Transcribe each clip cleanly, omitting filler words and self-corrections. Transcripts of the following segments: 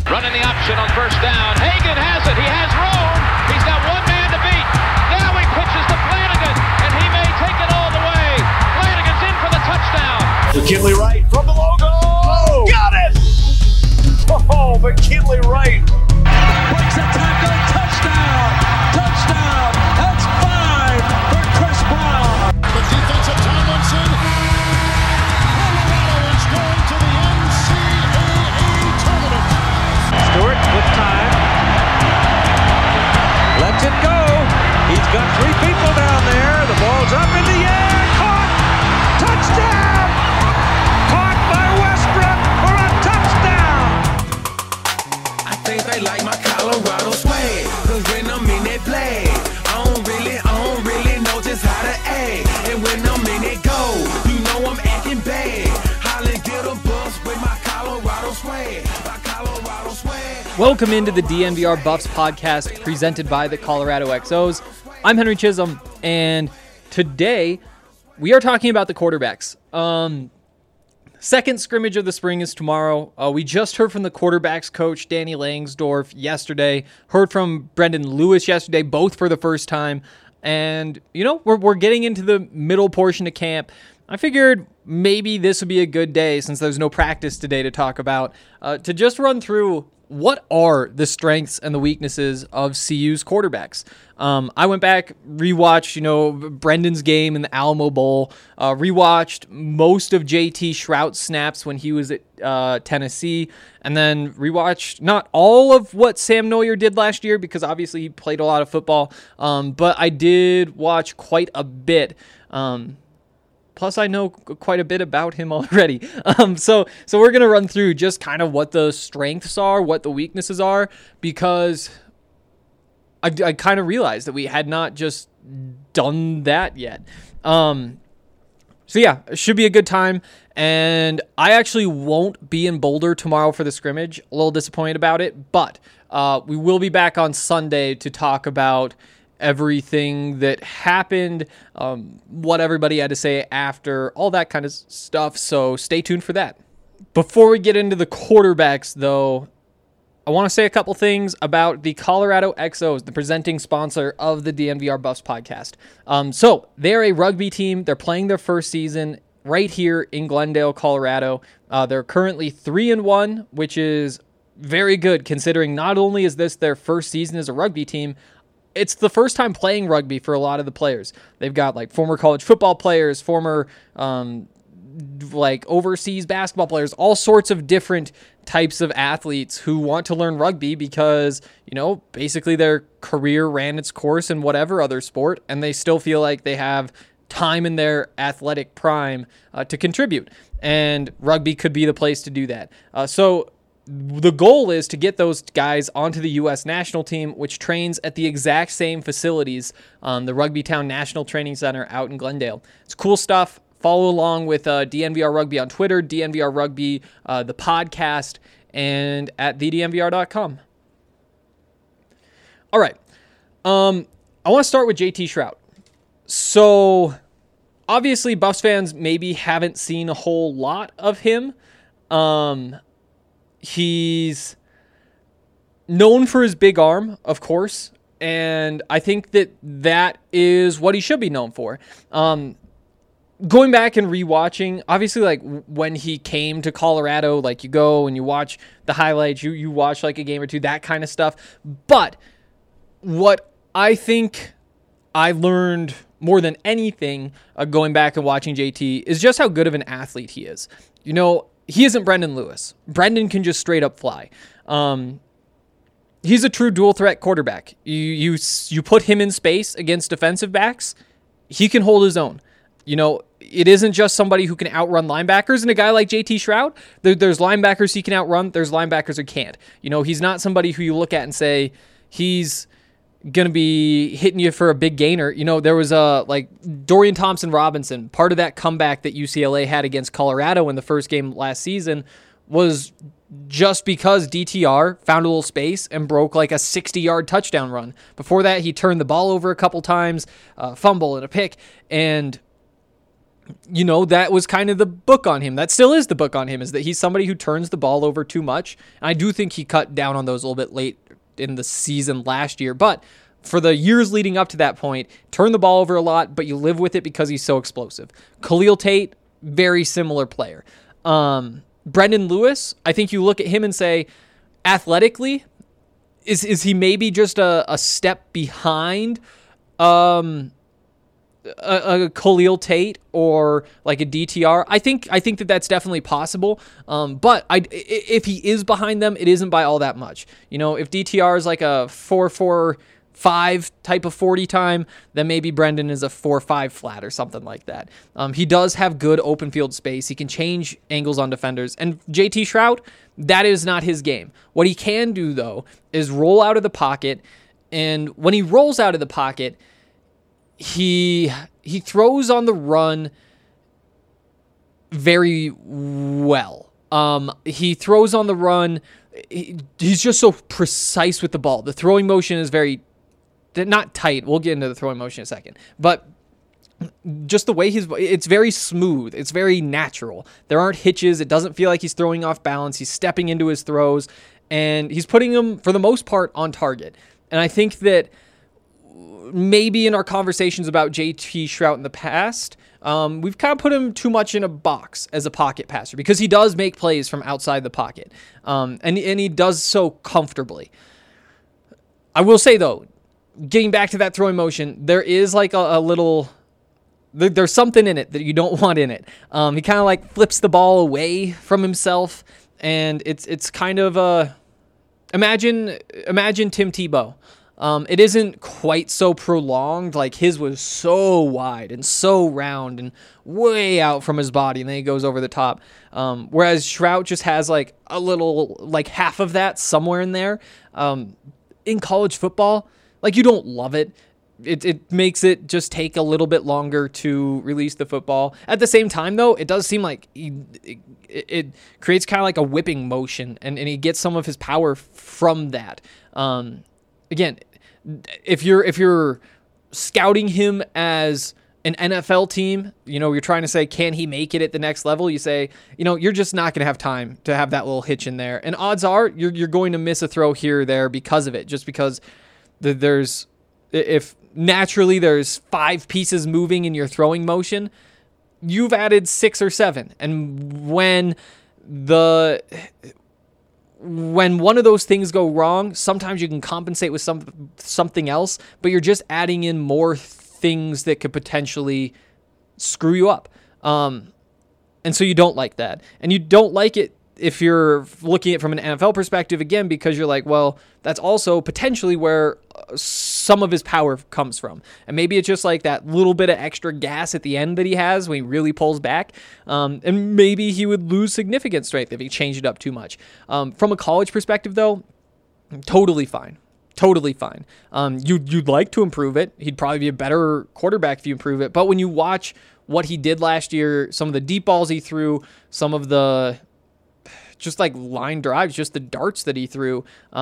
Running the option on first down. Hagan has it. He has room. He's got one man to beat. Now he pitches to Flanagan, and he may take it all the way. Flanagan's in for the touchdown. McKinley Wright from the logo. Got it! Oh, McKinley Wright. Breaks a tackle. Touchdown. Touchdown. That's 5 for Chris Brown. The defense of Tomlinson. Colorado is going to the NCAA tournament. Stewart with time. Lets it go. He's got 3 people down there. The ball's up in the air. Caught. Touchdown. Caught by Westbrook for a touchdown. I think they like my Colorado swag. Cause when I'm in that play, I don't really know just how to act. And when I'm in it go, you know I'm acting bad. Holland get a bus with my Colorado swag. My Colorado swag. Welcome into the DNVR Buffs podcast presented by the Colorado XOs. I'm Henry Chisholm, and today we are talking about the quarterbacks. Second scrimmage of the spring is tomorrow. We just heard from the quarterbacks coach, Danny Langsdorf, yesterday. Heard from Brendan Lewis yesterday, both for the first time. And, you know, we're getting into the middle portion of camp. I figured maybe this would be a good day, since there's no practice today to talk about, to just run through what are the strengths and the weaknesses of CU's quarterbacks. I went back, rewatched, Brendan's game in the Alamo Bowl, rewatched most of JT Shrout's snaps when he was at Tennessee, and then rewatched not all of what Sam Neuer did last year, because obviously he played a lot of football, but I did watch quite a bit. Plus, I know quite a bit about him already. So we're going to run through just kind of what the strengths are, what the weaknesses are, because I kind of realized that we had not just done that yet. So yeah, it should be a good time. And I actually won't be in Boulder tomorrow for the scrimmage. A little disappointed about it, but we will be back on Sunday to talk about everything that happened, what everybody had to say after, all that kind of stuff. So stay tuned for that. Before we get into the quarterbacks, though, I want to say a couple things about the Colorado XOs, the presenting sponsor of the DNVR Buffs podcast. So they're a rugby team. They're playing their first season right here in Glendale, Colorado. They're currently 3-1, which is very good, considering not only is this their first season as a rugby team, it's the first time playing rugby for a lot of the players. They've got like former college football players, former overseas basketball players, all sorts of different types of athletes who want to learn rugby because, basically their career ran its course in whatever other sport, and they still feel like they have time in their athletic prime to contribute. And rugby could be the place to do that. So the goal is to get those guys onto the U.S. national team, which trains at the exact same facilities, the Rugby Town National Training Center out in Glendale. It's cool stuff. Follow along with DNVR Rugby on Twitter, DNVR Rugby, the podcast, and at thednvr.com. All right. I want to start with JT Shrout. So, obviously, Buffs fans maybe haven't seen a whole lot of him. He's known for his big arm, of course, and I think that is what he should be known for. Going back and rewatching, obviously, like when he came to Colorado, like you go and you watch the highlights, you watch like a game or two, that kind of stuff. But what I think I learned more than anything going back and watching JT is just how good of an athlete he is. He isn't Brendan Lewis. Brendan can just straight up fly. He's a true dual threat quarterback. You put him in space against defensive backs, he can hold his own. It isn't just somebody who can outrun linebackers. And a guy like JT Shrout, there's linebackers he can outrun. There's linebackers who can't. He's not somebody who you look at and say he's going to be hitting you for a big gainer. There was Dorian Thompson-Robinson. Part of that comeback that UCLA had against Colorado in the first game last season was just because DTR found a little space and broke like a 60-yard touchdown run. Before that, he turned the ball over a couple times, fumble and a pick. And that was kind of the book on him. That still is the book on him, is that he's somebody who turns the ball over too much. And I do think he cut down on those a little bit late in the season last year. But for the years leading up to that point, turn the ball over a lot, but you live with it because he's so explosive. Khalil Tate, very similar player. Brendan Lewis, I think you look at him and say, athletically, is he maybe just a step behind a Khalil Tate or like a DTR? I think that that's definitely possible. But if he is behind them, it isn't by all that much. If DTR is like a 4.45 type of 40 time, then maybe Brendan is a 4.5 flat or something like that. He does have good open field space. He can change angles on defenders. And JT Shrout, that is not his game. What he can do, though, is roll out of the pocket. And when he rolls out of the pocket, he throws on the run very well. He throws on the run. He's just so precise with the ball. The throwing motion is very, not tight. We'll get into the throwing motion in a second. But just the way it's very smooth. It's very natural. There aren't hitches. It doesn't feel like he's throwing off balance. He's stepping into his throws, and he's putting them, for the most part, on target. And I think that maybe in our conversations about JT Shrout in the past, we've kind of put him too much in a box as a pocket passer because he does make plays from outside the pocket, and he does so comfortably. I will say, though, getting back to that throwing motion, there is like a little... There's something in it that you don't want in it. He kind of like flips the ball away from himself, and it's kind of imagine Tim Tebow. It isn't quite so prolonged. Like his was so wide and so round and way out from his body, and then he goes over the top. Whereas Shrout just has like a little, like half of that somewhere in there. In college football, like you don't love it. It makes it just take a little bit longer to release the football. At the same time, though, it does seem like it creates kind of like a whipping motion, and he gets some of his power from that. Again, if you're scouting him as an NFL team, you're trying to say, can he make it at the next level? You say, you're just not going to have time to have that little hitch in there. And odds are you're going to miss a throw here or there because of it, just because if naturally there's 5 pieces moving in your throwing motion, you've added 6 or 7. And when one of those things go wrong, sometimes you can compensate with something else, but you're just adding in more things that could potentially screw you up. And so you don't like that. And you don't like it if you're looking at it from an NFL perspective, again, because you're like, well, that's also potentially where some of his power comes from. And maybe it's just like that little bit of extra gas at the end that he has when he really pulls back. And maybe he would lose significant strength if he changed it up too much. From a college perspective, though, totally fine. Totally fine. You'd like to improve it. He'd probably be a better quarterback if you improve it. But when you watch what he did last year, some of the deep balls he threw, some of the just like line drives, just the darts that he threw,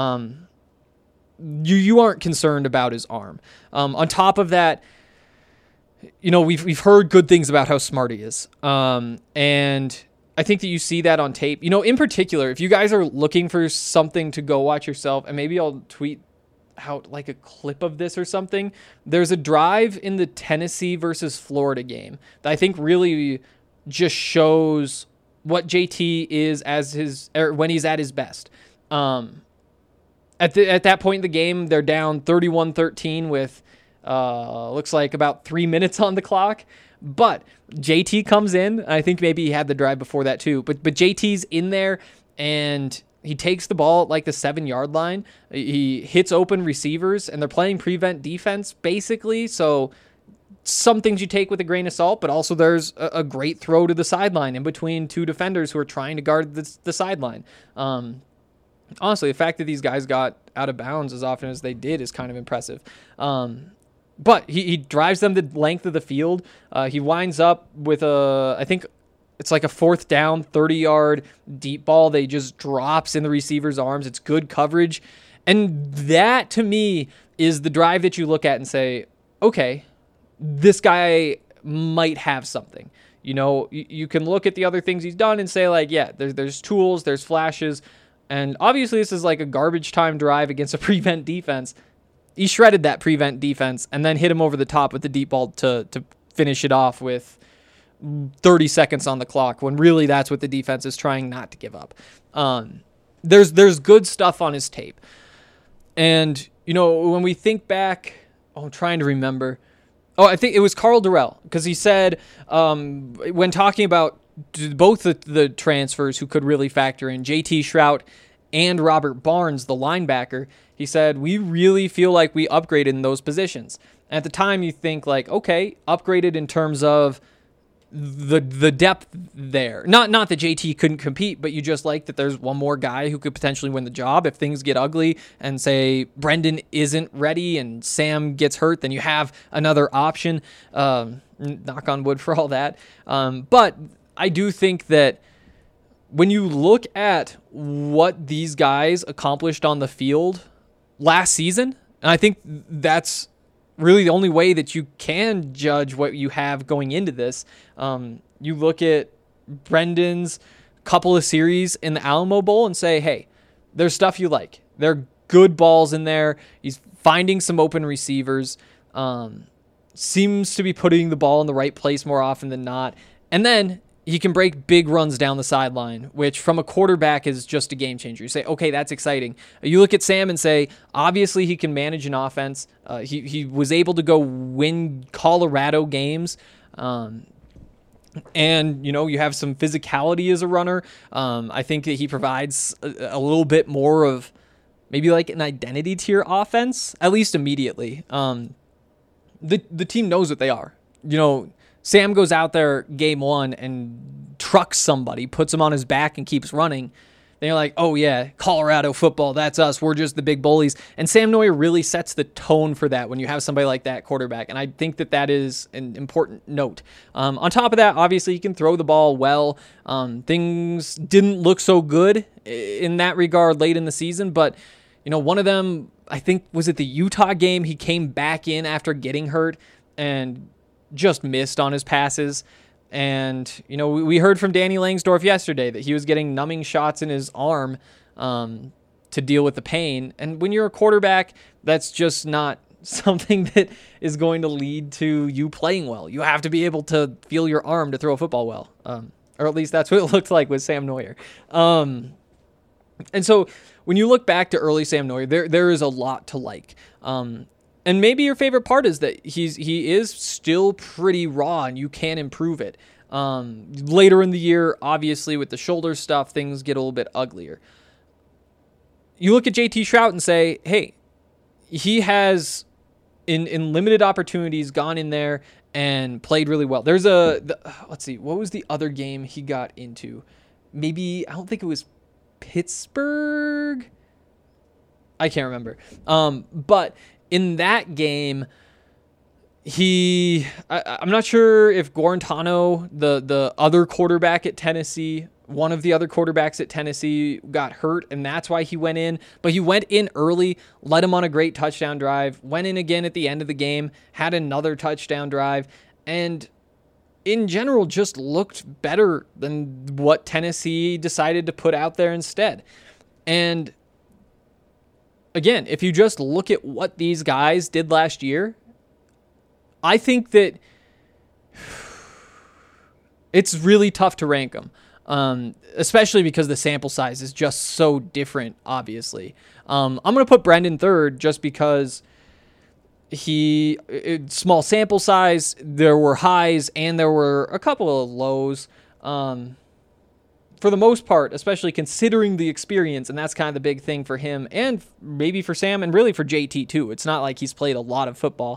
you aren't concerned about his arm. On top of that, we've heard good things about how smart he is. And I think that you see that on tape. In particular, if you guys are looking for something to go watch yourself, and maybe I'll tweet out like a clip of this or something. There's a drive in the Tennessee versus Florida game that I think really just shows what JT is when he's at his best. At that point in the game, they're down 31-13 with looks like about 3 minutes on the clock. But JT comes in. I think maybe he had the drive before that too. But JT's in there, and he takes the ball at like the 7-yard line. He hits open receivers, and they're playing prevent defense basically. So some things you take with a grain of salt, but also there's a great throw to the sideline in between 2 defenders who are trying to guard the sideline. Honestly, the fact that these guys got out of bounds as often as they did is kind of impressive. But he drives them the length of the field. He winds up with I think it's like a 4th down, 30-yard deep ball that he just drops in the receiver's arms. It's good coverage. And that, to me, is the drive that you look at and say, okay, this guy might have something. You know, you can look at the other things he's done and say, like, yeah, there's tools, there's flashes, and obviously this is like a garbage time drive against a prevent defense. He shredded that prevent defense and then hit him over the top with the deep ball to finish it off with 30 seconds on the clock, when really that's what the defense is trying not to give up. There's good stuff on his tape. And, you know, when we think back, I'm trying to remember. Oh, I think it was Carl Durrell, because he said when talking about both the transfers who could really factor in, JT Shrout and Robert Barnes, the linebacker, he said, we really feel like we upgraded in those positions. And at the time, you think like, okay, upgraded in terms of the depth there. Not that JT couldn't compete, but you just like that there's one more guy who could potentially win the job. If things get ugly and say Brendan isn't ready and Sam gets hurt, then you have another option. Knock on wood for all that. But I do think that when you look at what these guys accomplished on the field last season, and I think that's really the only way that you can judge what you have going into this. You look at Brendan's couple of series in the Alamo Bowl and say, hey, there's stuff you like. There are good balls in there. He's finding some open receivers. Seems to be putting the ball in the right place more often than not. And then he can break big runs down the sideline, which from a quarterback is just a game changer. You say, okay, that's exciting. You look at Sam and say, obviously he can manage an offense. He was able to go win Colorado games. And, you know, you have some physicality as a runner. I think that he provides a little bit more of maybe like an identity to your offense, at least immediately. The team knows what they are. You know, Sam goes out there game one and trucks somebody, puts him on his back and keeps running. Then you're like, oh yeah, Colorado football, that's us. We're just the big bullies. And Sam Noyer really sets the tone for that when you have somebody like that quarterback. And I think that that is an important note. On top of that, obviously he can throw the ball well. Things didn't look so good in that regard late in the season, but you know, one of them, I think, was it the Utah game? He came back in after getting hurt and just missed on his passes. And, you know, we heard from Danny Langsdorff yesterday that he was getting numbing shots in his arm to deal with the pain. And when you're a quarterback, that's just not something that is going to lead to you playing well. You have to be able to feel your arm to throw a football well. Or at least that's what it looked like with Sam Noyer. And so when you look back to early Sam Noyer, there is a lot to like. And maybe your favorite part is that he is still pretty raw and you can improve it. Later in the year, obviously with the shoulder stuff, things get a little bit uglier. You look at JT Shrout and say, hey, he has in limited opportunities gone in there and played really well. There's let's see, what was the other game he got into? Maybe, I don't think it was Pittsburgh. I can't remember. But in that game, I'm not sure if Guarantano, the other quarterback at Tennessee, one of the other quarterbacks at Tennessee got hurt, and that's why he went in. But he went in early, led him on a great touchdown drive, went in again at the end of the game, had another touchdown drive, and in general just looked better than what Tennessee decided to put out there instead. And again, if you just look at what these guys did last year, I think that it's really tough to rank them, especially because the sample size is just so different, obviously. I'm going to put Brendan third just because small sample size, there were highs and there were a couple of lows. For the most part, especially considering the experience, and that's kind of the big thing for him and maybe for Sam and really for JT too. It's not like he's played a lot of football.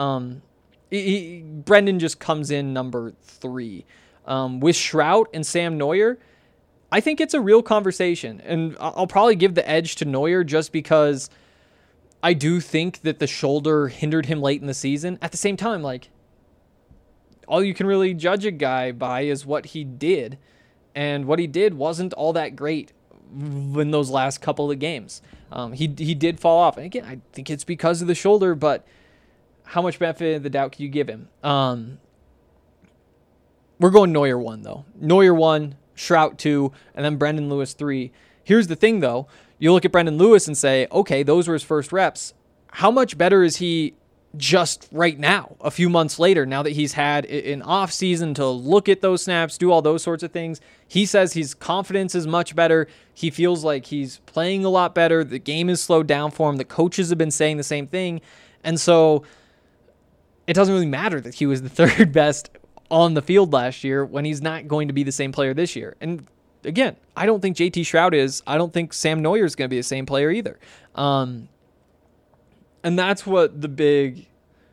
Brendan just comes in number 3. With Shrout and Sam Noyer, I think it's a real conversation, and I'll probably give the edge to Noyer just because I do think that the shoulder hindered him late in the season. At the same time, like, all you can really judge a guy by is what he did. And what he did wasn't all that great in those last couple of games. He did fall off. And again, I think it's because of the shoulder, but how much benefit of the doubt can you give him? We're going Neuer 1, though. Neuer 1, Shrout 2, and then Brendan Lewis 3. Here's the thing, though. You look at Brendan Lewis and say, okay, those were his first reps. How much better is he just right now, a few months later, now that he's had an off season to look at those snaps, do all those sorts of things? He says his confidence is much better. He feels like he's playing a lot better. The game is slowed down for him. The coaches have been saying the same thing. And so it doesn't really matter that he was the third best on the field last year when he's not going to be the same player this year. And again, I don't think JT Shrout is. I don't think Sam Neuer is going to be the same player either. And that's what the big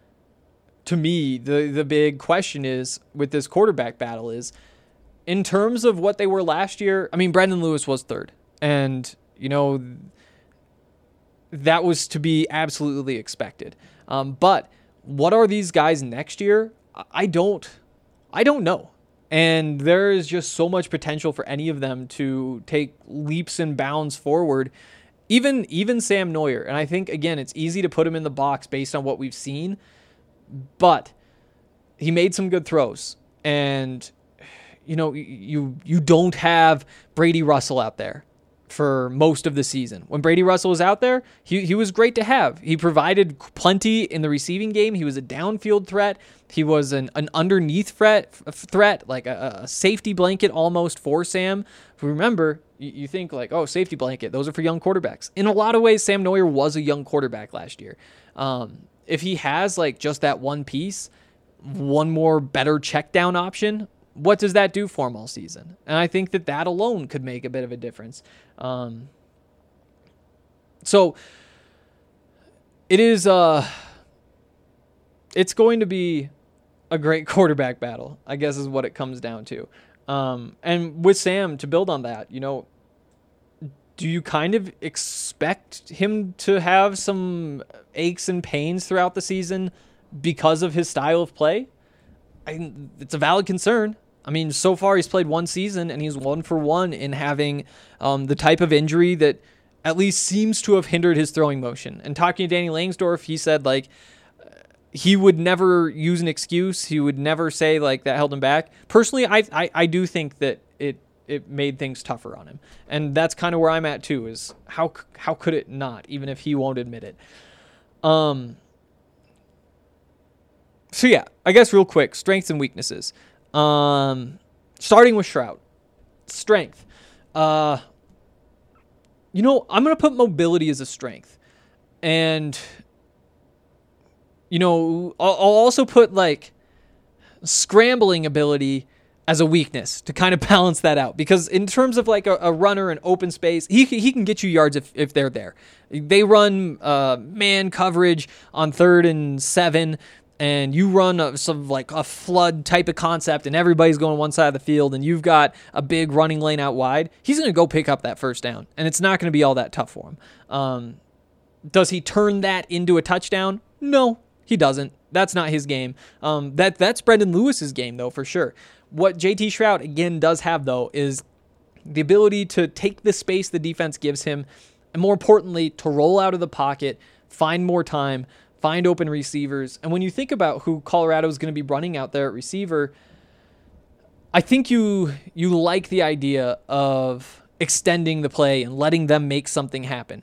question is with this quarterback battle is, in terms of what they were last year. I mean, Brendan Lewis was third, and that was to be absolutely expected. But what are these guys next year? I don't know. And there is just so much potential for any of them to take leaps and bounds forward. Even Sam Neuer. And I think, again, it's easy to put him in the box based on what we've seen, but he made some good throws. And, you don't have Brady Russell out there for most of the season. When Brady Russell was out there, he was great to have. He provided plenty in the receiving game. He was a downfield threat. He was an underneath threat, like a safety blanket almost for Sam. Remember, you think like, oh, safety blanket, those are for young quarterbacks. In a lot of ways, Sam Neuer was a young quarterback last year. If he has like just that one piece, one more better check down option, what does that do for him all season? And I think that alone could make a bit of a difference. So it is, it's going to be a great quarterback battle, I guess is what it comes down to. And with Sam, to build on that, do you kind of expect him to have some aches and pains throughout the season because of his style of play? It's a valid concern. I mean, so far he's played one season and he's 1 for 1 in having the type of injury that at least seems to have hindered his throwing motion. And talking to Danny Langsdorff, he said like he would never use an excuse. He would never say like that held him back. Personally, I do think that it made things tougher on him. And that's kind of where I'm at too, is how could it not, even if he won't admit it. So yeah, I guess real quick, strengths and weaknesses. Starting with Shrout. Strength. I'm going to put mobility as a strength. And, I'll also put like scrambling ability as a weakness to kind of balance that out. Because in terms of like a runner in open space, he can get you yards if they're there. They run man coverage on 3rd and 7, and you run a flood type of concept and everybody's going one side of the field and you've got a big running lane out wide, he's going to go pick up that first down, and it's not going to be all that tough for him. Does he turn that into a touchdown? No, he doesn't. That's not his game. That's Brendan Lewis's game, though, for sure. What JT Shrout, again, does have, though, is the ability to take the space the defense gives him, and more importantly, to roll out of the pocket, find more time, find open receivers. And when you think about who Colorado is going to be running out there at receiver, I think you like the idea of extending the play and letting them make something happen.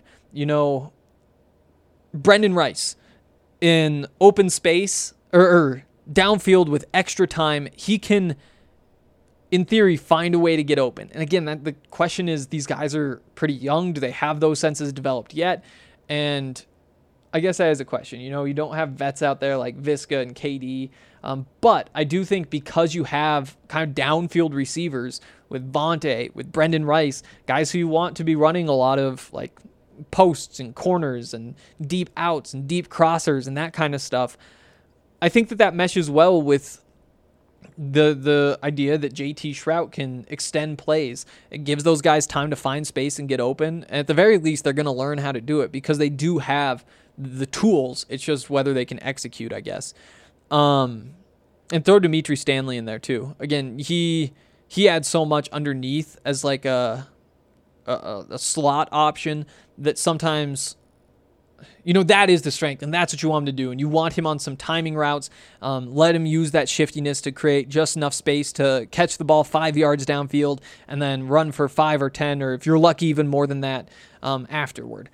Brendan Rice in open space or downfield with extra time, he can, in theory, find a way to get open. And again, the question is, these guys are pretty young. Do they have those senses developed yet? And I guess that is a question. You don't have vets out there like Viska and KD. But I do think because you have kind of downfield receivers with Vontae, with Brendan Rice, guys who you want to be running a lot of like posts and corners and deep outs and deep crossers and that kind of stuff, I think that meshes well with the idea that JT Shrout can extend plays. It gives those guys time to find space and get open. And at the very least, they're going to learn how to do it because they do have the tools. It's just whether they can execute, I guess. And throw Dimitri Stanley in there too. Again, he adds so much underneath as like a slot option that sometimes that is the strength, and that's what you want him to do. And you want him on some timing routes. Let him use that shiftiness to create just enough space to catch the ball 5 yards downfield and then run for 5 or 10, or if you're lucky, even more than that afterward.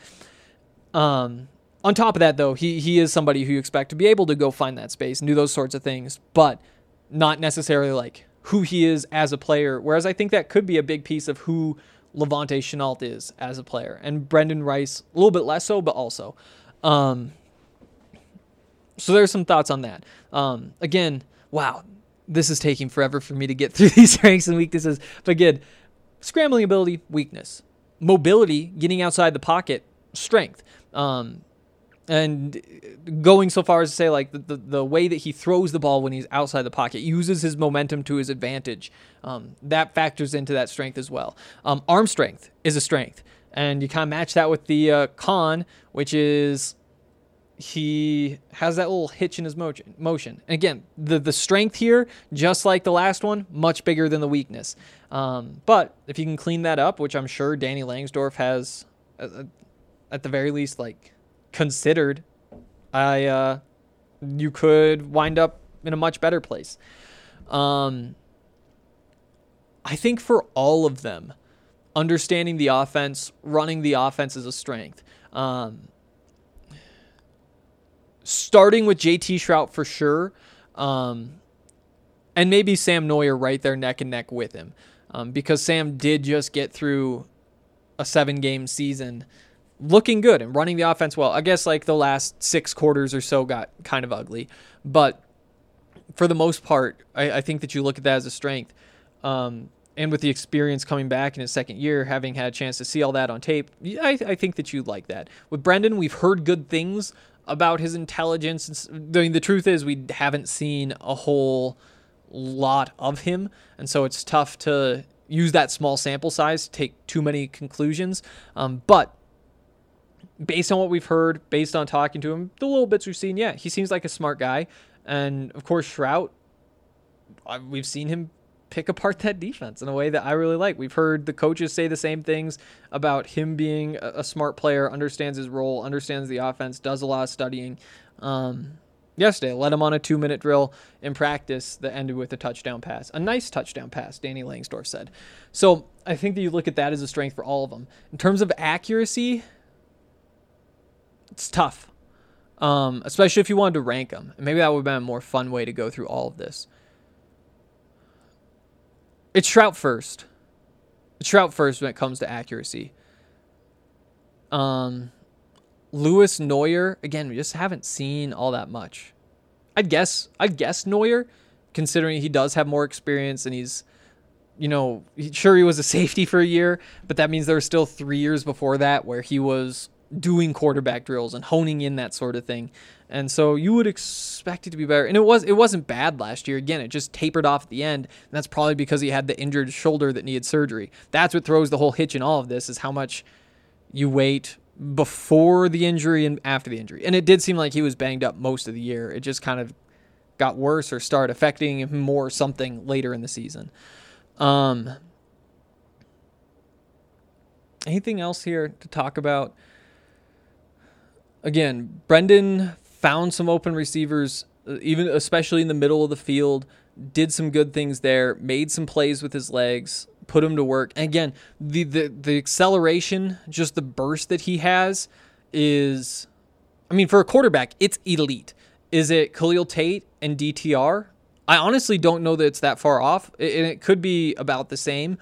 On top of that, though, he is somebody who you expect to be able to go find that space and do those sorts of things, but not necessarily like who he is as a player, whereas I think that could be a big piece of who Levante Shenault is as a player, and Brendan Rice a little bit less so, but also. So there's some thoughts on that. Again, wow, this is taking forever for me to get through these strengths and weaknesses. But again, scrambling ability, weakness. Mobility, getting outside the pocket, strength. And going so far as to say, like, the way that he throws the ball when he's outside the pocket, uses his momentum to his advantage. That factors into that strength as well. Arm strength is a strength. And you kind of match that with the con, which is he has that little hitch in his motion. And again, the strength here, just like the last one, much bigger than the weakness. But if you can clean that up, which I'm sure Danny Langsdorff has, at the very least, like, considered, you could wind up in a much better place. I think for all of them, understanding the offense, running the offense is a strength. Starting with JT Shrout for sure, and maybe Sam Neuer right there neck and neck with him, because Sam did just get through a 7-game season looking good and running the offense well. I guess like the last 6 quarters or so got kind of ugly, but for the most part, I think that you look at that as a strength. And with the experience coming back in his second year, having had a chance to see all that on tape, I think that you like that. With Brendan, we've heard good things about his intelligence. The truth is we haven't seen a whole lot of him, and so it's tough to use that small sample size to take too many conclusions. But based on what we've heard, based on talking to him, the little bits we've seen, yeah, he seems like a smart guy. And, of course, Shrout, we've seen him pick apart that defense in a way that I really like. We've heard the coaches say the same things about him being a smart player, understands his role, understands the offense, does a lot of studying. Yesterday, let him on a 2-minute drill in practice that ended with a touchdown pass. A nice touchdown pass, Danny Langsdorff said. So I think that you look at that as a strength for all of them. In terms of accuracy, it's tough, especially if you wanted to rank them. And maybe that would have been a more fun way to go through all of this. It's Shrout first. It's Shrout first when it comes to accuracy. Lewis Neuer, again, we just haven't seen all that much. I'd guess Neuer, considering he does have more experience and he's, sure he was a safety for a year, but that means there were still 3 years before that where he was doing quarterback drills and honing in that sort of thing. And so you would expect it to be better. And it wasn't bad last year. Again, it just tapered off at the end. And that's probably because he had the injured shoulder that needed surgery. That's what throws the whole hitch in all of this, is how much you wait before the injury and after the injury. And it did seem like he was banged up most of the year. It just kind of got worse or started affecting him more or something later in the season. Anything else here to talk about? Again, Brendan found some open receivers, especially in the middle of the field, did some good things there, made some plays with his legs, put him to work. And again, the acceleration, just the burst that he has is, for a quarterback, it's elite. Is it Khalil Tate and DTR? I honestly don't know that it's that far off, and it could be about the same.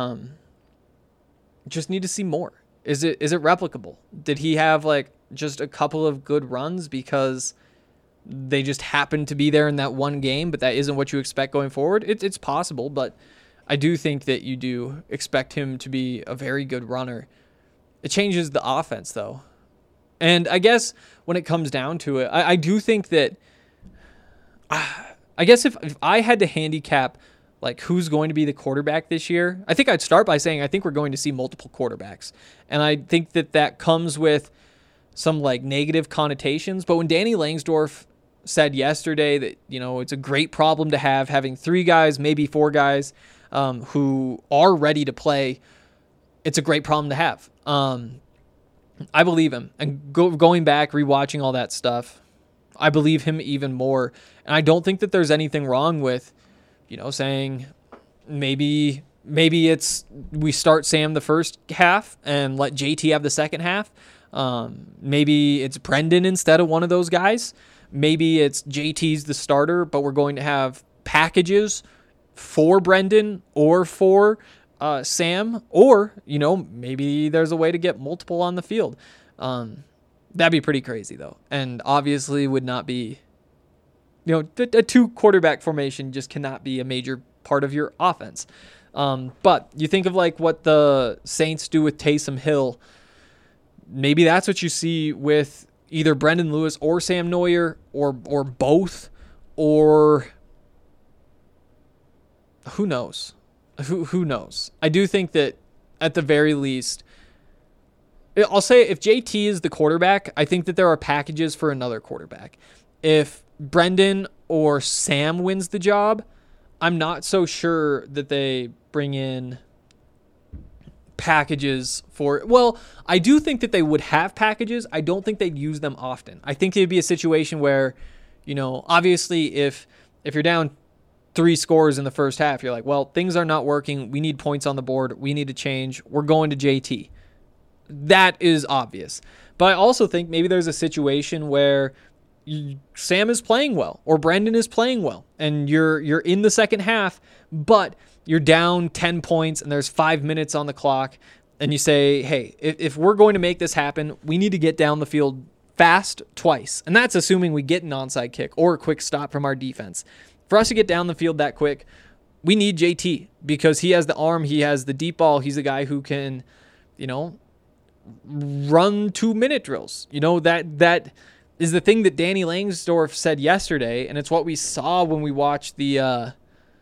Just need to see more. Is it replicable? Did he have just a couple of good runs because they just happened to be there in that one game, but that isn't what you expect going forward? It's possible, but I do think that you do expect him to be a very good runner. It changes the offense, though. And I guess when it comes down to it, I do think that, I guess if I had to handicap who's going to be the quarterback this year, I think I'd start by saying I think we're going to see multiple quarterbacks. And I think that comes with some negative connotations. But when Danny Langsdorff said yesterday that, it's a great problem to have, having 3 guys, maybe 4 guys who are ready to play, it's a great problem to have. I believe him. And going back, rewatching all that stuff, I believe him even more. And I don't think that there's anything wrong with, saying maybe it's we start Sam the first half and let JT have the second half. Maybe it's Brendan instead of one of those guys. Maybe it's JT's the starter, but we're going to have packages for Brendan or for Sam, or, maybe there's a way to get multiple on the field. That'd be pretty crazy, though. And obviously would not be, a 2-quarterback formation just cannot be a major part of your offense. But you think of like what the Saints do with Taysom Hill. Maybe that's what you see with either Brendan Lewis or Sam Neuer or both, or who knows? Who knows? I do think that at the very least, I'll say if JT is the quarterback, I think that there are packages for another quarterback. If Brendan or Sam wins the job, I'm not so sure that they bring in packages for, well, I do think that they would have packages. I don't think they'd use them often. I think it'd be a situation where, obviously if you're down 3 scores in the first half, you're like, well, things are not working. We need points on the board. We need to change. We're going to JT. That is obvious. But I also think maybe there's a situation where Sam is playing well or Brendan is playing well and you're in the second half, but you're down 10 points and there's 5 minutes on the clock, and you say, hey, if we're going to make this happen, we need to get down the field fast twice. And that's assuming we get an onside kick or a quick stop from our defense. For us to get down the field that quick, we need JT because he has the arm, he has the deep ball, he's a guy who can, run 2-minute drills. That is the thing that Danny Langsdorff said yesterday, and it's what we saw when we watched the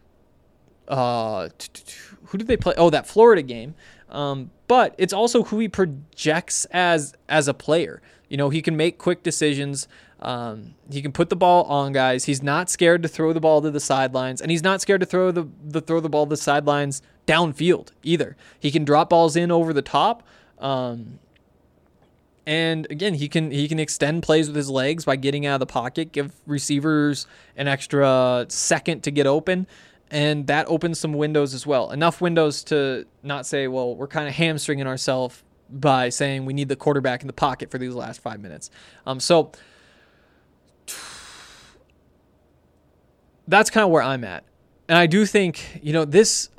who did they play? Oh, that Florida game. But it's also who he projects as a player. He can make quick decisions. He can put the ball on guys. He's not scared to throw the ball to the sidelines, and he's not scared to throw the ball to the sidelines downfield either. He can drop balls in over the top. And again, he can extend plays with his legs by getting out of the pocket, give receivers an extra second to get open, and that opens some windows as well. Enough windows to not say, well, we're kind of hamstringing ourselves by saying we need the quarterback in the pocket for these last 5 minutes. So that's kind of where I'm at. And I do think, this,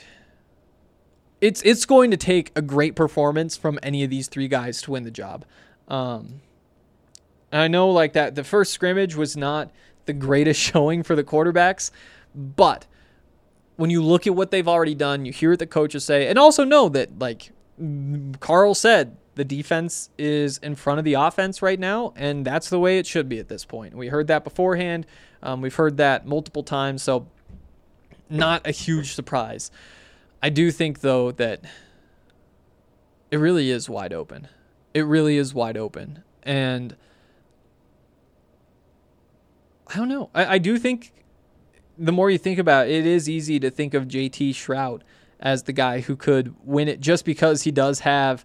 it's going to take a great performance from any of these 3 guys to win the job. And I know like that the first scrimmage was not the greatest showing for the quarterbacks, but when you look at what they've already done, you hear what the coaches say, and also know that, like Carl said, the defense is in front of the offense right now, and that's the way it should be at this point. We heard that beforehand. We've heard that multiple times, so not a huge surprise. I do think, though, that it really is wide open. It really is wide open. And I don't know. I do think the more you think about it, it is easy to think of JT Shrout as the guy who could win it just because he does have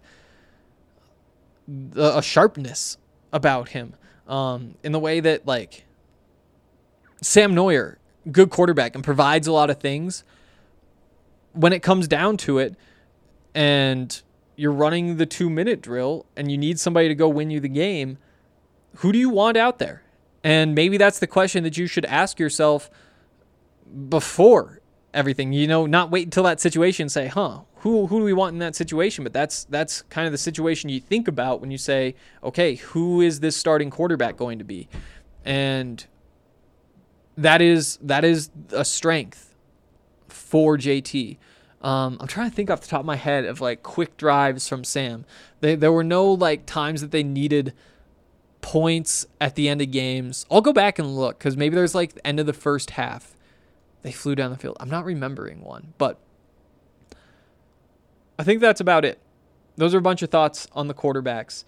a sharpness about him in the way that, like, Sam Neuer, good quarterback and provides a lot of things. When it comes down to it and you're running the 2-minute drill and you need somebody to go win you the game, who do you want out there? And maybe that's the question that you should ask yourself before everything, not wait until that situation and say, who do we want in that situation? But that's kind of the situation you think about when you say, okay, who is this starting quarterback going to be? And that is a strength for JT. I'm trying to think off the top of my head of like quick drives from Sam. There were no like times that they needed points at the end of games. I'll go back and look because maybe there's like the end of the first half they flew down the field. I'm not remembering one, but I think that's about it. Those are a bunch of thoughts on the quarterbacks.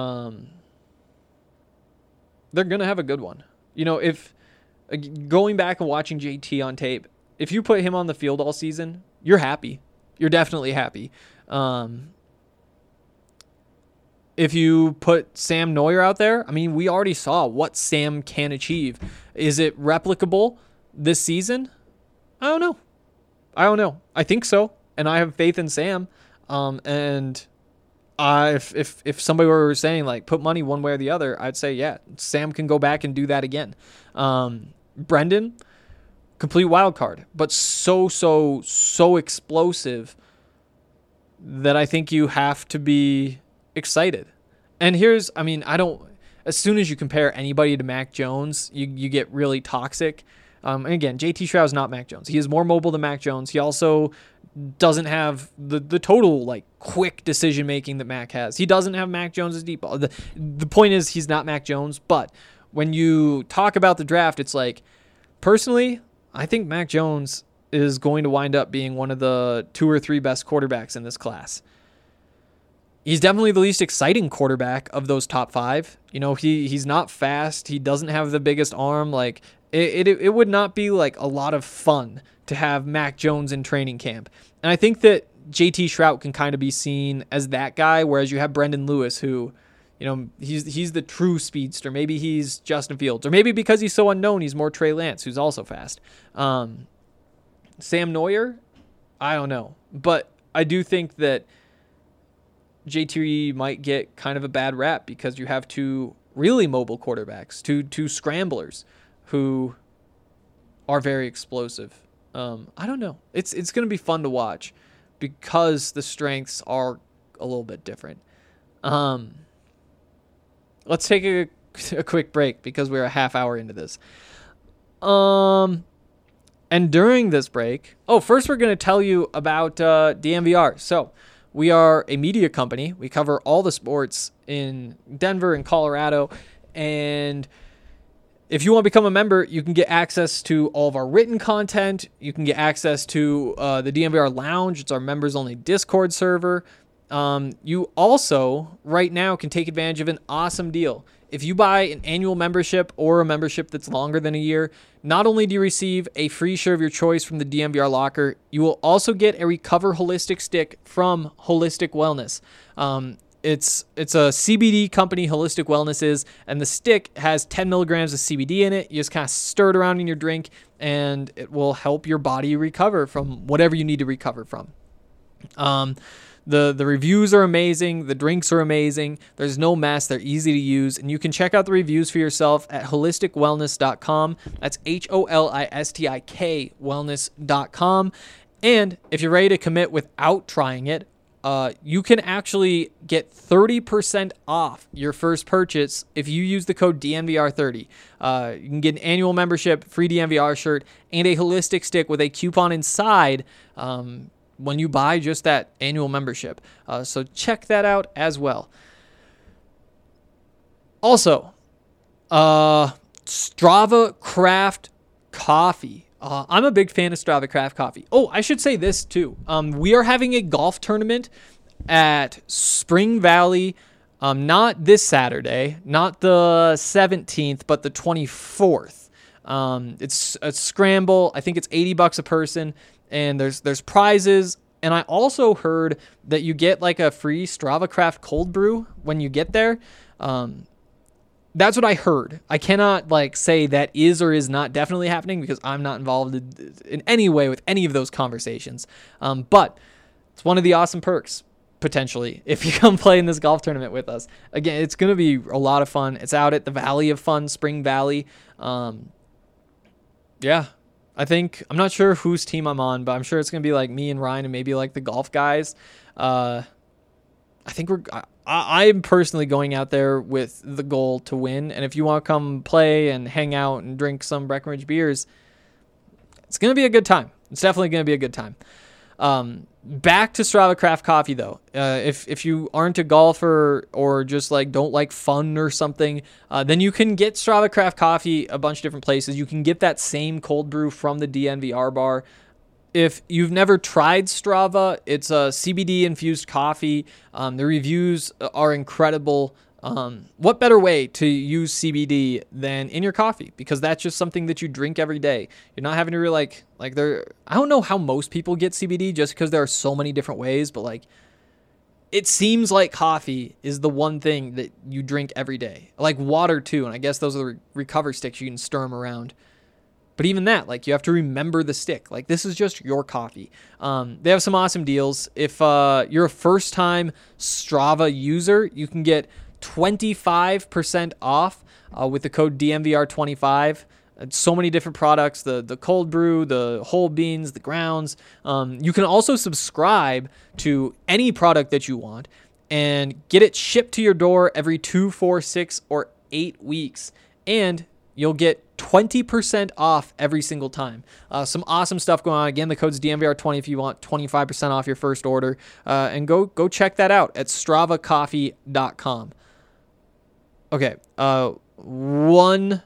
They're going to have a good one. If going back and watching JT on tape, if you put him on the field all season, you're happy. You're definitely happy. if you put Sam Neuer out there, I mean, we already saw what Sam can achieve. Is it replicable this season? I don't know. I think so, and I have faith in Sam. And if somebody were saying like put money one way or the other, I'd say yeah, Sam can go back and do that again. Brendan, complete wild card, but so explosive that I think you have to be excited. And as soon as you compare anybody to Mac Jones, you get really toxic. And again, JT Shroud's not Mac Jones. He is more mobile than Mac Jones. He also doesn't have the total like quick decision making that Mac has. He doesn't have Mac Jones's deep ball. The point is he's not Mac Jones, but when you talk about the draft, it's like, personally, I think Mac Jones is going to wind up being one of the 2 or 3 best quarterbacks in this class. He's definitely the least exciting quarterback of those top 5. You know, he's not fast. He doesn't have the biggest arm. Like it would not be like a lot of fun to have Mac Jones in training camp. And I think that JT Shrout can kind of be seen as that guy, whereas you have Brendan Lewis, who, you know, he's the true speedster. Maybe he's Justin Fields, or maybe because he's so unknown, he's more Trey Lance, who's also fast. Sam Neuer, I don't know, but I do think that JT might get kind of a bad rap because you have 2 really mobile quarterbacks, two scramblers who are very explosive. I don't know. It's going to be fun to watch because the strengths are a little bit different. Let's take a quick break because we're a half hour into this. And during this break, first we're going to tell you about DNVR. So we are a media company. We cover all the sports in Denver and Colorado. And if you want to become a member, you can get access to all of our written content. You can get access to the DNVR Lounge. It's our members-only Discord server. You also, right now, can take advantage of an awesome deal. If you buy an annual membership or a membership that's longer than a year, not only do you receive a free shirt of your choice from the DNVR locker, you will also get a Recover Holistic stick from Holistic Wellness. It's a CBD company, Holistic Wellness is, and the stick has 10 milligrams of CBD in it. You just kind of stir it around in your drink, and it will help your body recover from whatever you need to recover from. The reviews are amazing. The drinks are amazing. There's no mess. They're easy to use. And you can check out the reviews for yourself at holisticwellness.com. That's HOLISTIK wellness.com. And if you're ready to commit without trying it, you can actually get 30% off your first purchase if you use the code DNVR30. You can get an annual membership, free DNVR shirt, and a holistic stick with a coupon inside when you buy just that annual membership. So check that out as well. Also, Strava Craft Coffee. I'm a big fan of Strava Craft Coffee. Oh, I should say this too. We are having a golf tournament at Spring Valley, not this Saturday, not the 17th, but the 24th. It's a scramble. I think it's $80 a person. And there's prizes, and I also heard that you get like a free Strava Craft cold brew when you get there. That's what I heard. I cannot like say that is or is not definitely happening because I'm not involved in any way with any of those conversations. But it's one of the awesome perks potentially if you come play in this golf tournament with us. Again, it's going to be a lot of fun. It's out at the Valley of Fun, Spring Valley. Yeah. I'm not sure whose team I'm on, but I'm sure it's going to be like me and Ryan and maybe like the golf guys. I think I'm personally going out there with the goal to win. And if you want to come play and hang out and drink some Breckenridge beers, it's going to be a good time. It's definitely going to be a good time. Back to Strava Craft Coffee though. If you aren't a golfer or just like don't like fun or something, then you can get Strava Craft Coffee a bunch of different places. You can get that same cold brew from the DNVR bar. If you've never tried Strava, it's a CBD infused coffee. The reviews are incredible. What better way to use CBD than in your coffee? Because that's just something that you drink every day. You're not having to really I don't know how most people get CBD just because there are so many different ways, but like it seems like coffee is the one thing that you drink every day. Like water too, and I guess those are the recover sticks. You can stir them around. But even that, like, you have to remember the stick. Like, this is just your coffee. They have some awesome deals. If you're a first-time Strava user, you can get 25% off with the code DMVR25. So many different products, the cold brew, the whole beans, the grounds. You can also subscribe to any product that you want and get it shipped to your door every 2, 4, 6, or 8 weeks. And you'll get 20% off every single time. Some awesome stuff going on. Again, the code's DMVR20 if you want 25% off your first order. And go check that out at stravacoffee.com. Okay, one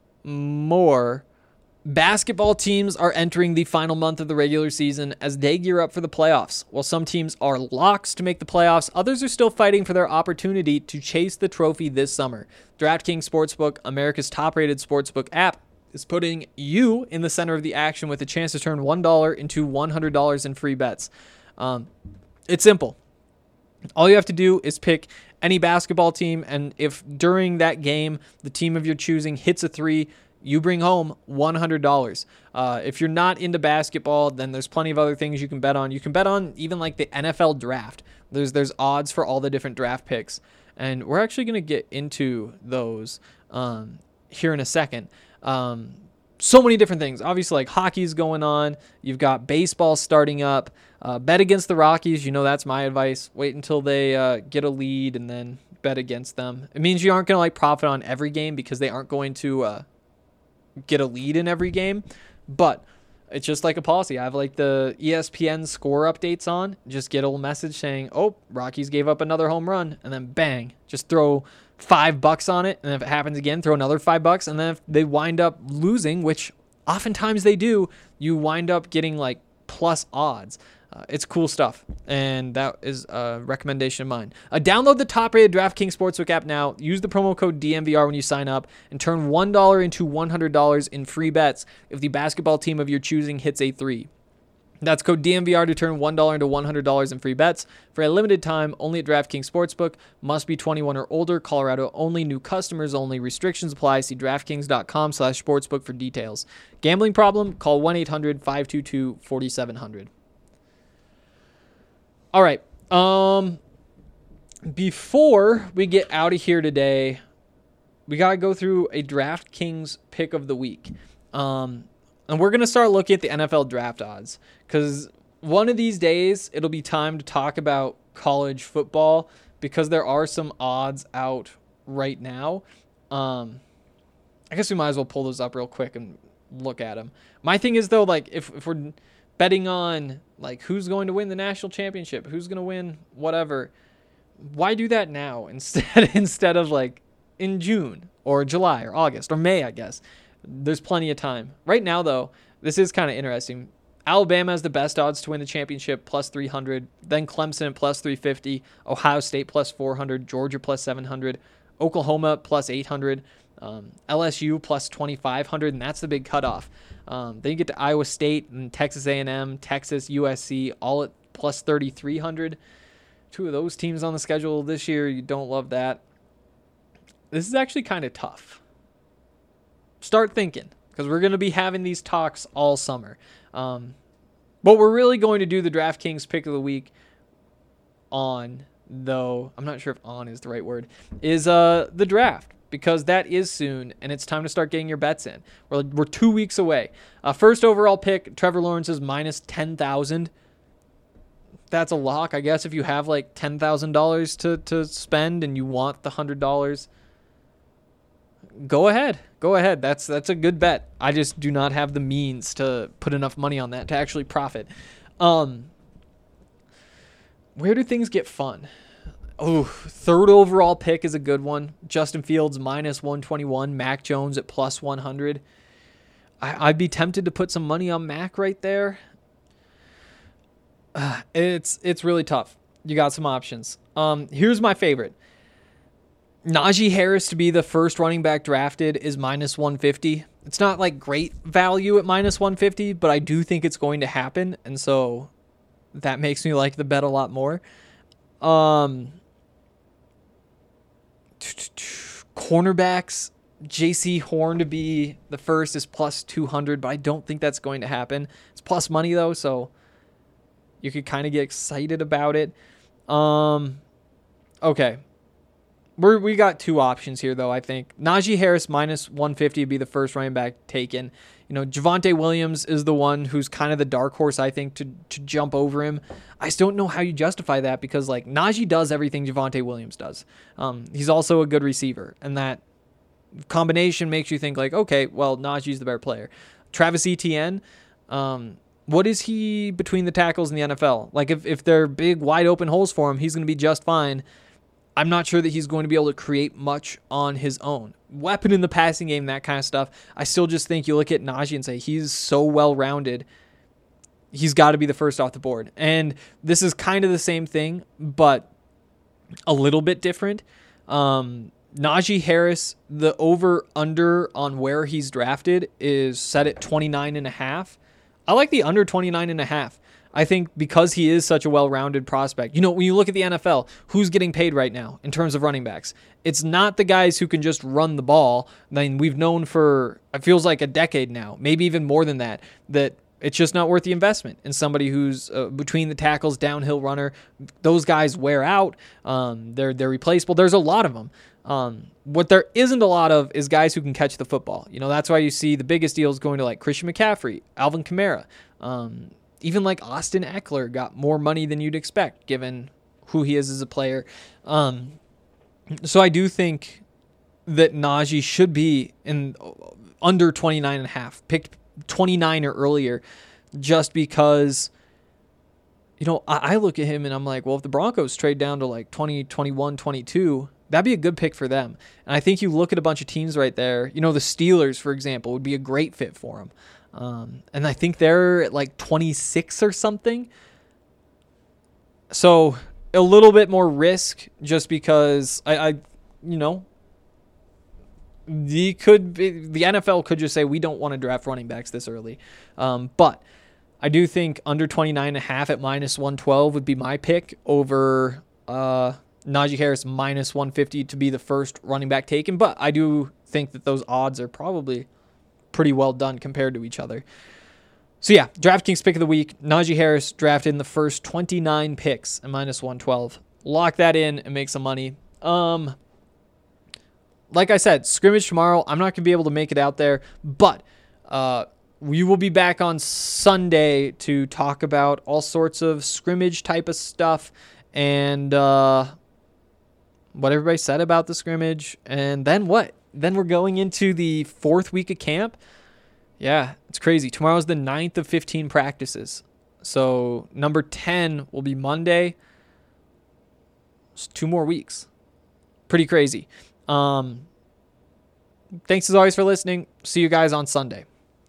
more. Basketball teams are entering the final month of the regular season as they gear up for the playoffs. While some teams are locks to make the playoffs, others are still fighting for their opportunity to chase the trophy this summer. DraftKings Sportsbook, America's top-rated sportsbook app, is putting you in the center of the action with a chance to turn $1 into $100 in free bets. It's simple. All you have to do is pick any basketball team, and if during that game the team of your choosing hits a three, you bring home $100. If you're not into basketball, then there's plenty of other things you can bet on. You can bet on even like the NFL draft. There's odds for all the different draft picks, and we're actually going to get into those here in a second. So many different things. Obviously, like hockey's going on. You've got baseball starting up. Bet against the Rockies. You know that's my advice. Wait until they get a lead and then bet against them. It means you aren't going to like profit on every game because they aren't going to get a lead in every game, but it's just like a policy. I have like the ESPN score updates on, just get a little message saying, oh, Rockies gave up another home run, and then bang, just throw $5 on it, and if it happens again, throw another $5, and then if they wind up losing, which oftentimes they do, you wind up getting like plus odds. It's cool stuff, and that is a recommendation of mine. Download the top-rated DraftKings Sportsbook app now. Use the promo code DMVR when you sign up, and turn $1 into $100 in free bets if the basketball team of your choosing hits a three. That's code DMVR to turn $1 into $100 in free bets for a limited time only at DraftKings Sportsbook. Must be 21 or older. Colorado only. New customers only. Restrictions apply. See DraftKings.com/sportsbook for details. Gambling problem? Call 1-800-522-4700. All right. Before we get out of here today, we got to go through a DraftKings pick of the week. And we're going to start looking at the NFL draft odds because one of these days it'll be time to talk about college football because there are some odds out right now. I guess we might as well pull those up real quick and look at them. My thing is though, like if we're betting on like who's going to win the national championship, who's going to win whatever, why do that now instead of like in June or July or August or May, I guess. There's plenty of time. Right now, though, this is kind of interesting. Alabama has the best odds to win the championship, plus 300. Then Clemson at plus 350. Ohio State plus 400. Georgia plus 700. Oklahoma plus 800. LSU plus 2,500, and that's the big cutoff. Then you get to Iowa State and Texas A&M, Texas, USC, all at plus 3,300. Two of those teams on the schedule this year. You don't love that. This is actually kind of tough. Start thinking, because we're going to be having these talks all summer. But we're really going to do the DraftKings pick of the week on, though, I'm not sure if on is the right word, is the draft, because that is soon, and it's time to start getting your bets in. We're 2 weeks away. First overall pick, Trevor Lawrence is minus 10,000. That's a lock, I guess, if you have like $10,000 to spend and you want the $100. Go ahead. That's a good bet. I just do not have the means to put enough money on that to actually profit. Where do things get fun? Oh, third overall pick is a good one. Justin Fields minus 121. Mac Jones at plus 100. I'd be tempted to put some money on Mac right there. It's really tough. You got some options. Here's my favorite. Najee Harris to be the first running back drafted is minus 150. It's not like great value at minus 150, but I do think it's going to happen, and so that makes me like the bet a lot more. Cornerbacks, J.C. Horn to be the first is plus 200, but I don't think that's going to happen. It's plus money, though, so you could kind of get excited about it. Okay. We got two options here, though, I think. Najee Harris minus 150 would be the first running back taken. Javonte Williams is the one who's kind of the dark horse, I think, to jump over him. I just don't know how you justify that because, Najee does everything Javonte Williams does. He's also a good receiver, and that combination makes you think, okay, well, Najee's the better player. Travis Etienne, what is he between the tackles in the NFL? If they're big, wide-open holes for him, he's going to be just fine. I'm not sure that he's going to be able to create much on his own. Weapon in the passing game, that kind of stuff. I still just think you look at Najee and say he's so well-rounded, he's got to be the first off the board. And this is kind of the same thing, but a little bit different. Najee Harris, the over-under on where he's drafted is set at 29.5. I like the under 29.5. I think because he is such a well-rounded prospect. When you look at the NFL, who's getting paid right now in terms of running backs? It's not the guys who can just run the ball. We've known for, it feels like a decade now, maybe even more than that it's just not worth the investment in somebody who's between the tackles, downhill runner. Those guys wear out. They're replaceable. There's a lot of them. What there isn't a lot of is guys who can catch the football. That's why you see the biggest deals going to Christian McCaffrey, Alvin Kamara, even Austin Eckler got more money than you'd expect given who he is as a player. So I do think that Najee should be in under 29.5, picked 29 or earlier, just because, I look at him and I'm like, well, if the Broncos trade down to 20, 21, 22, that'd be a good pick for them. And I think you look at a bunch of teams right there, the Steelers, for example, would be a great fit for him. And I think they're at 26 or something. So a little bit more risk just because the NFL could just say, we don't want to draft running backs this early. But I do think under 29.5 at minus 112 would be my pick over, Najee Harris minus 150 to be the first running back taken. But I do think that those odds are probably pretty well done compared to each other. So yeah, DraftKings pick of the week, Najee Harris drafted in the first 29 picks at minus 112. Lock that in and make some money. Like I said, scrimmage tomorrow. I'm not going to be able to make it out there, but we will be back on Sunday to talk about all sorts of scrimmage type of stuff and what everybody said about the scrimmage. And then what? Then we're going into the 4th week of camp. Yeah, it's crazy. Tomorrow's the 9th of 15 practices. So number 10 will be Monday. It's 2 more weeks. Pretty crazy. Thanks as always for listening. See you guys on Sunday.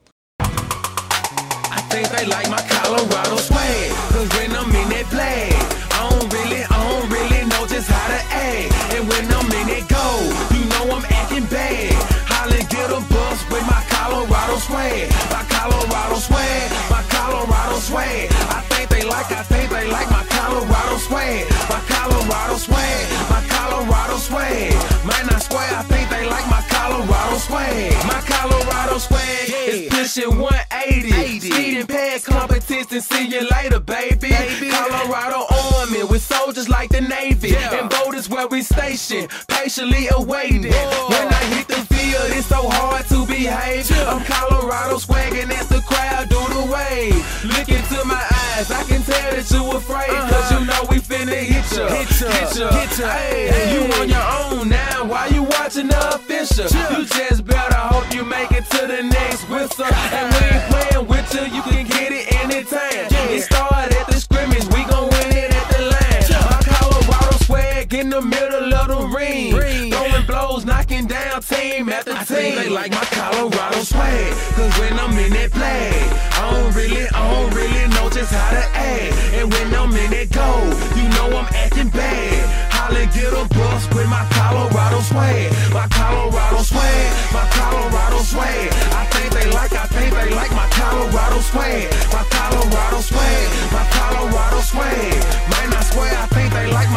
I think they like my Colorado swag, 'cause when I'm in that play, I don't really know just how to act. And when I'm in that go, you know I'm acting bad. Holly get a bus with my Colorado swag. My Colorado swag, my Colorado swag. I think they like my Colorado swag. My Colorado swag, my Colorado swag. Man, I swear I think they like my Colorado swag. My Colorado swag is pushing 180. Speeding past competition, see you later, baby. Colorado Army with soldiers like the Navy. And boat is where we station, patiently awaiting. When I hit the field, it's so hard to behave. I'm Colorado swagging as the crowd do the wave. Look into my eyes, I can tell that you afraid. 'Cause you know we finna hit ya. Hey, you on your own now, why you watching the official? You just better hope you make it to the next whistle. And we ain't playing with you can get it anytime. It started at the scrimmage, we gon' win it at the line. My Colorado swag in the middle of the ring. Throwing blows, knocking down team after team. I think they like my Colorado swag, 'cause when I'm in that play, I don't really know just how to act. And when I'm in that go, you know I'm acting bad. Holly get a bus with my Colorado swag. My Colorado swag, my Colorado swag. I think they like my Colorado swag. My Colorado swag, my Colorado swag. Man, I swear I think they like my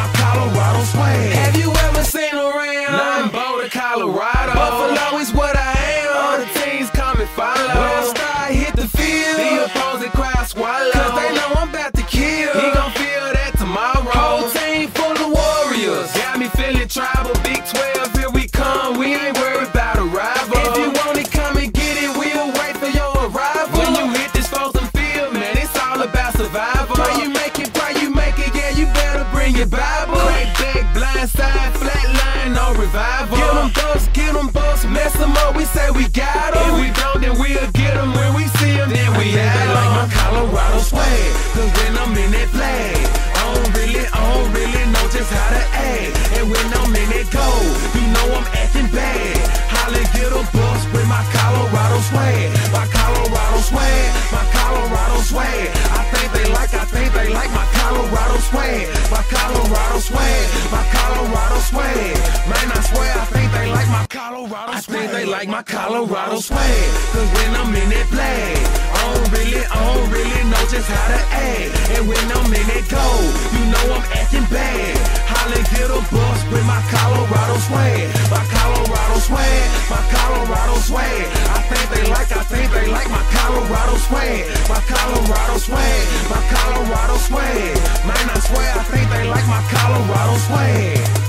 my Colorado swag. Have you ever seen around? Nothing Boulder, Colorado. Buffalo is what I am. All the teams come and follow. When I start hit the field, the opposing crowd swallow. Cause they know I'm about to kill. He gon' feel that tomorrow. Whole team full of warriors. Got me feeling tribal. Big 12, here we come. We ain't worried about a rival. If you want it, come and get it. We'll wait for your arrival. When you hit this frozen field, man, it's all about survival. Pray you make it, yeah, you better bring your Bible. Crack back, blind side, flat line, no revival. Get them bucks, mess them up, we say we got them. If we don't, then we'll get them. When we see them, then we have them. Like my Colorado swag, cause when I'm in that flag, I don't really know just how to act. And when I'm in that goal, you know I'm acting bad. Holla, get a bus with my Colorado swag. My Colorado swag, my Colorado swag. I think they like my Colorado swag. My Colorado swag, my Colorado swag. Man, I swear, I think they like my Colorado swag. I think they like my Colorado swag. Cause when I'm in that flag, I don't really know just how to act. And when I'm in that goal, you know I'm acting bad. Holla, get a bus with my Colorado swag. My Colorado swag, my Colorado swag. I think they like my Colorado swag. My Colorado swag, my Colorado swag. Man, I swear, I think they like my Colorado swag.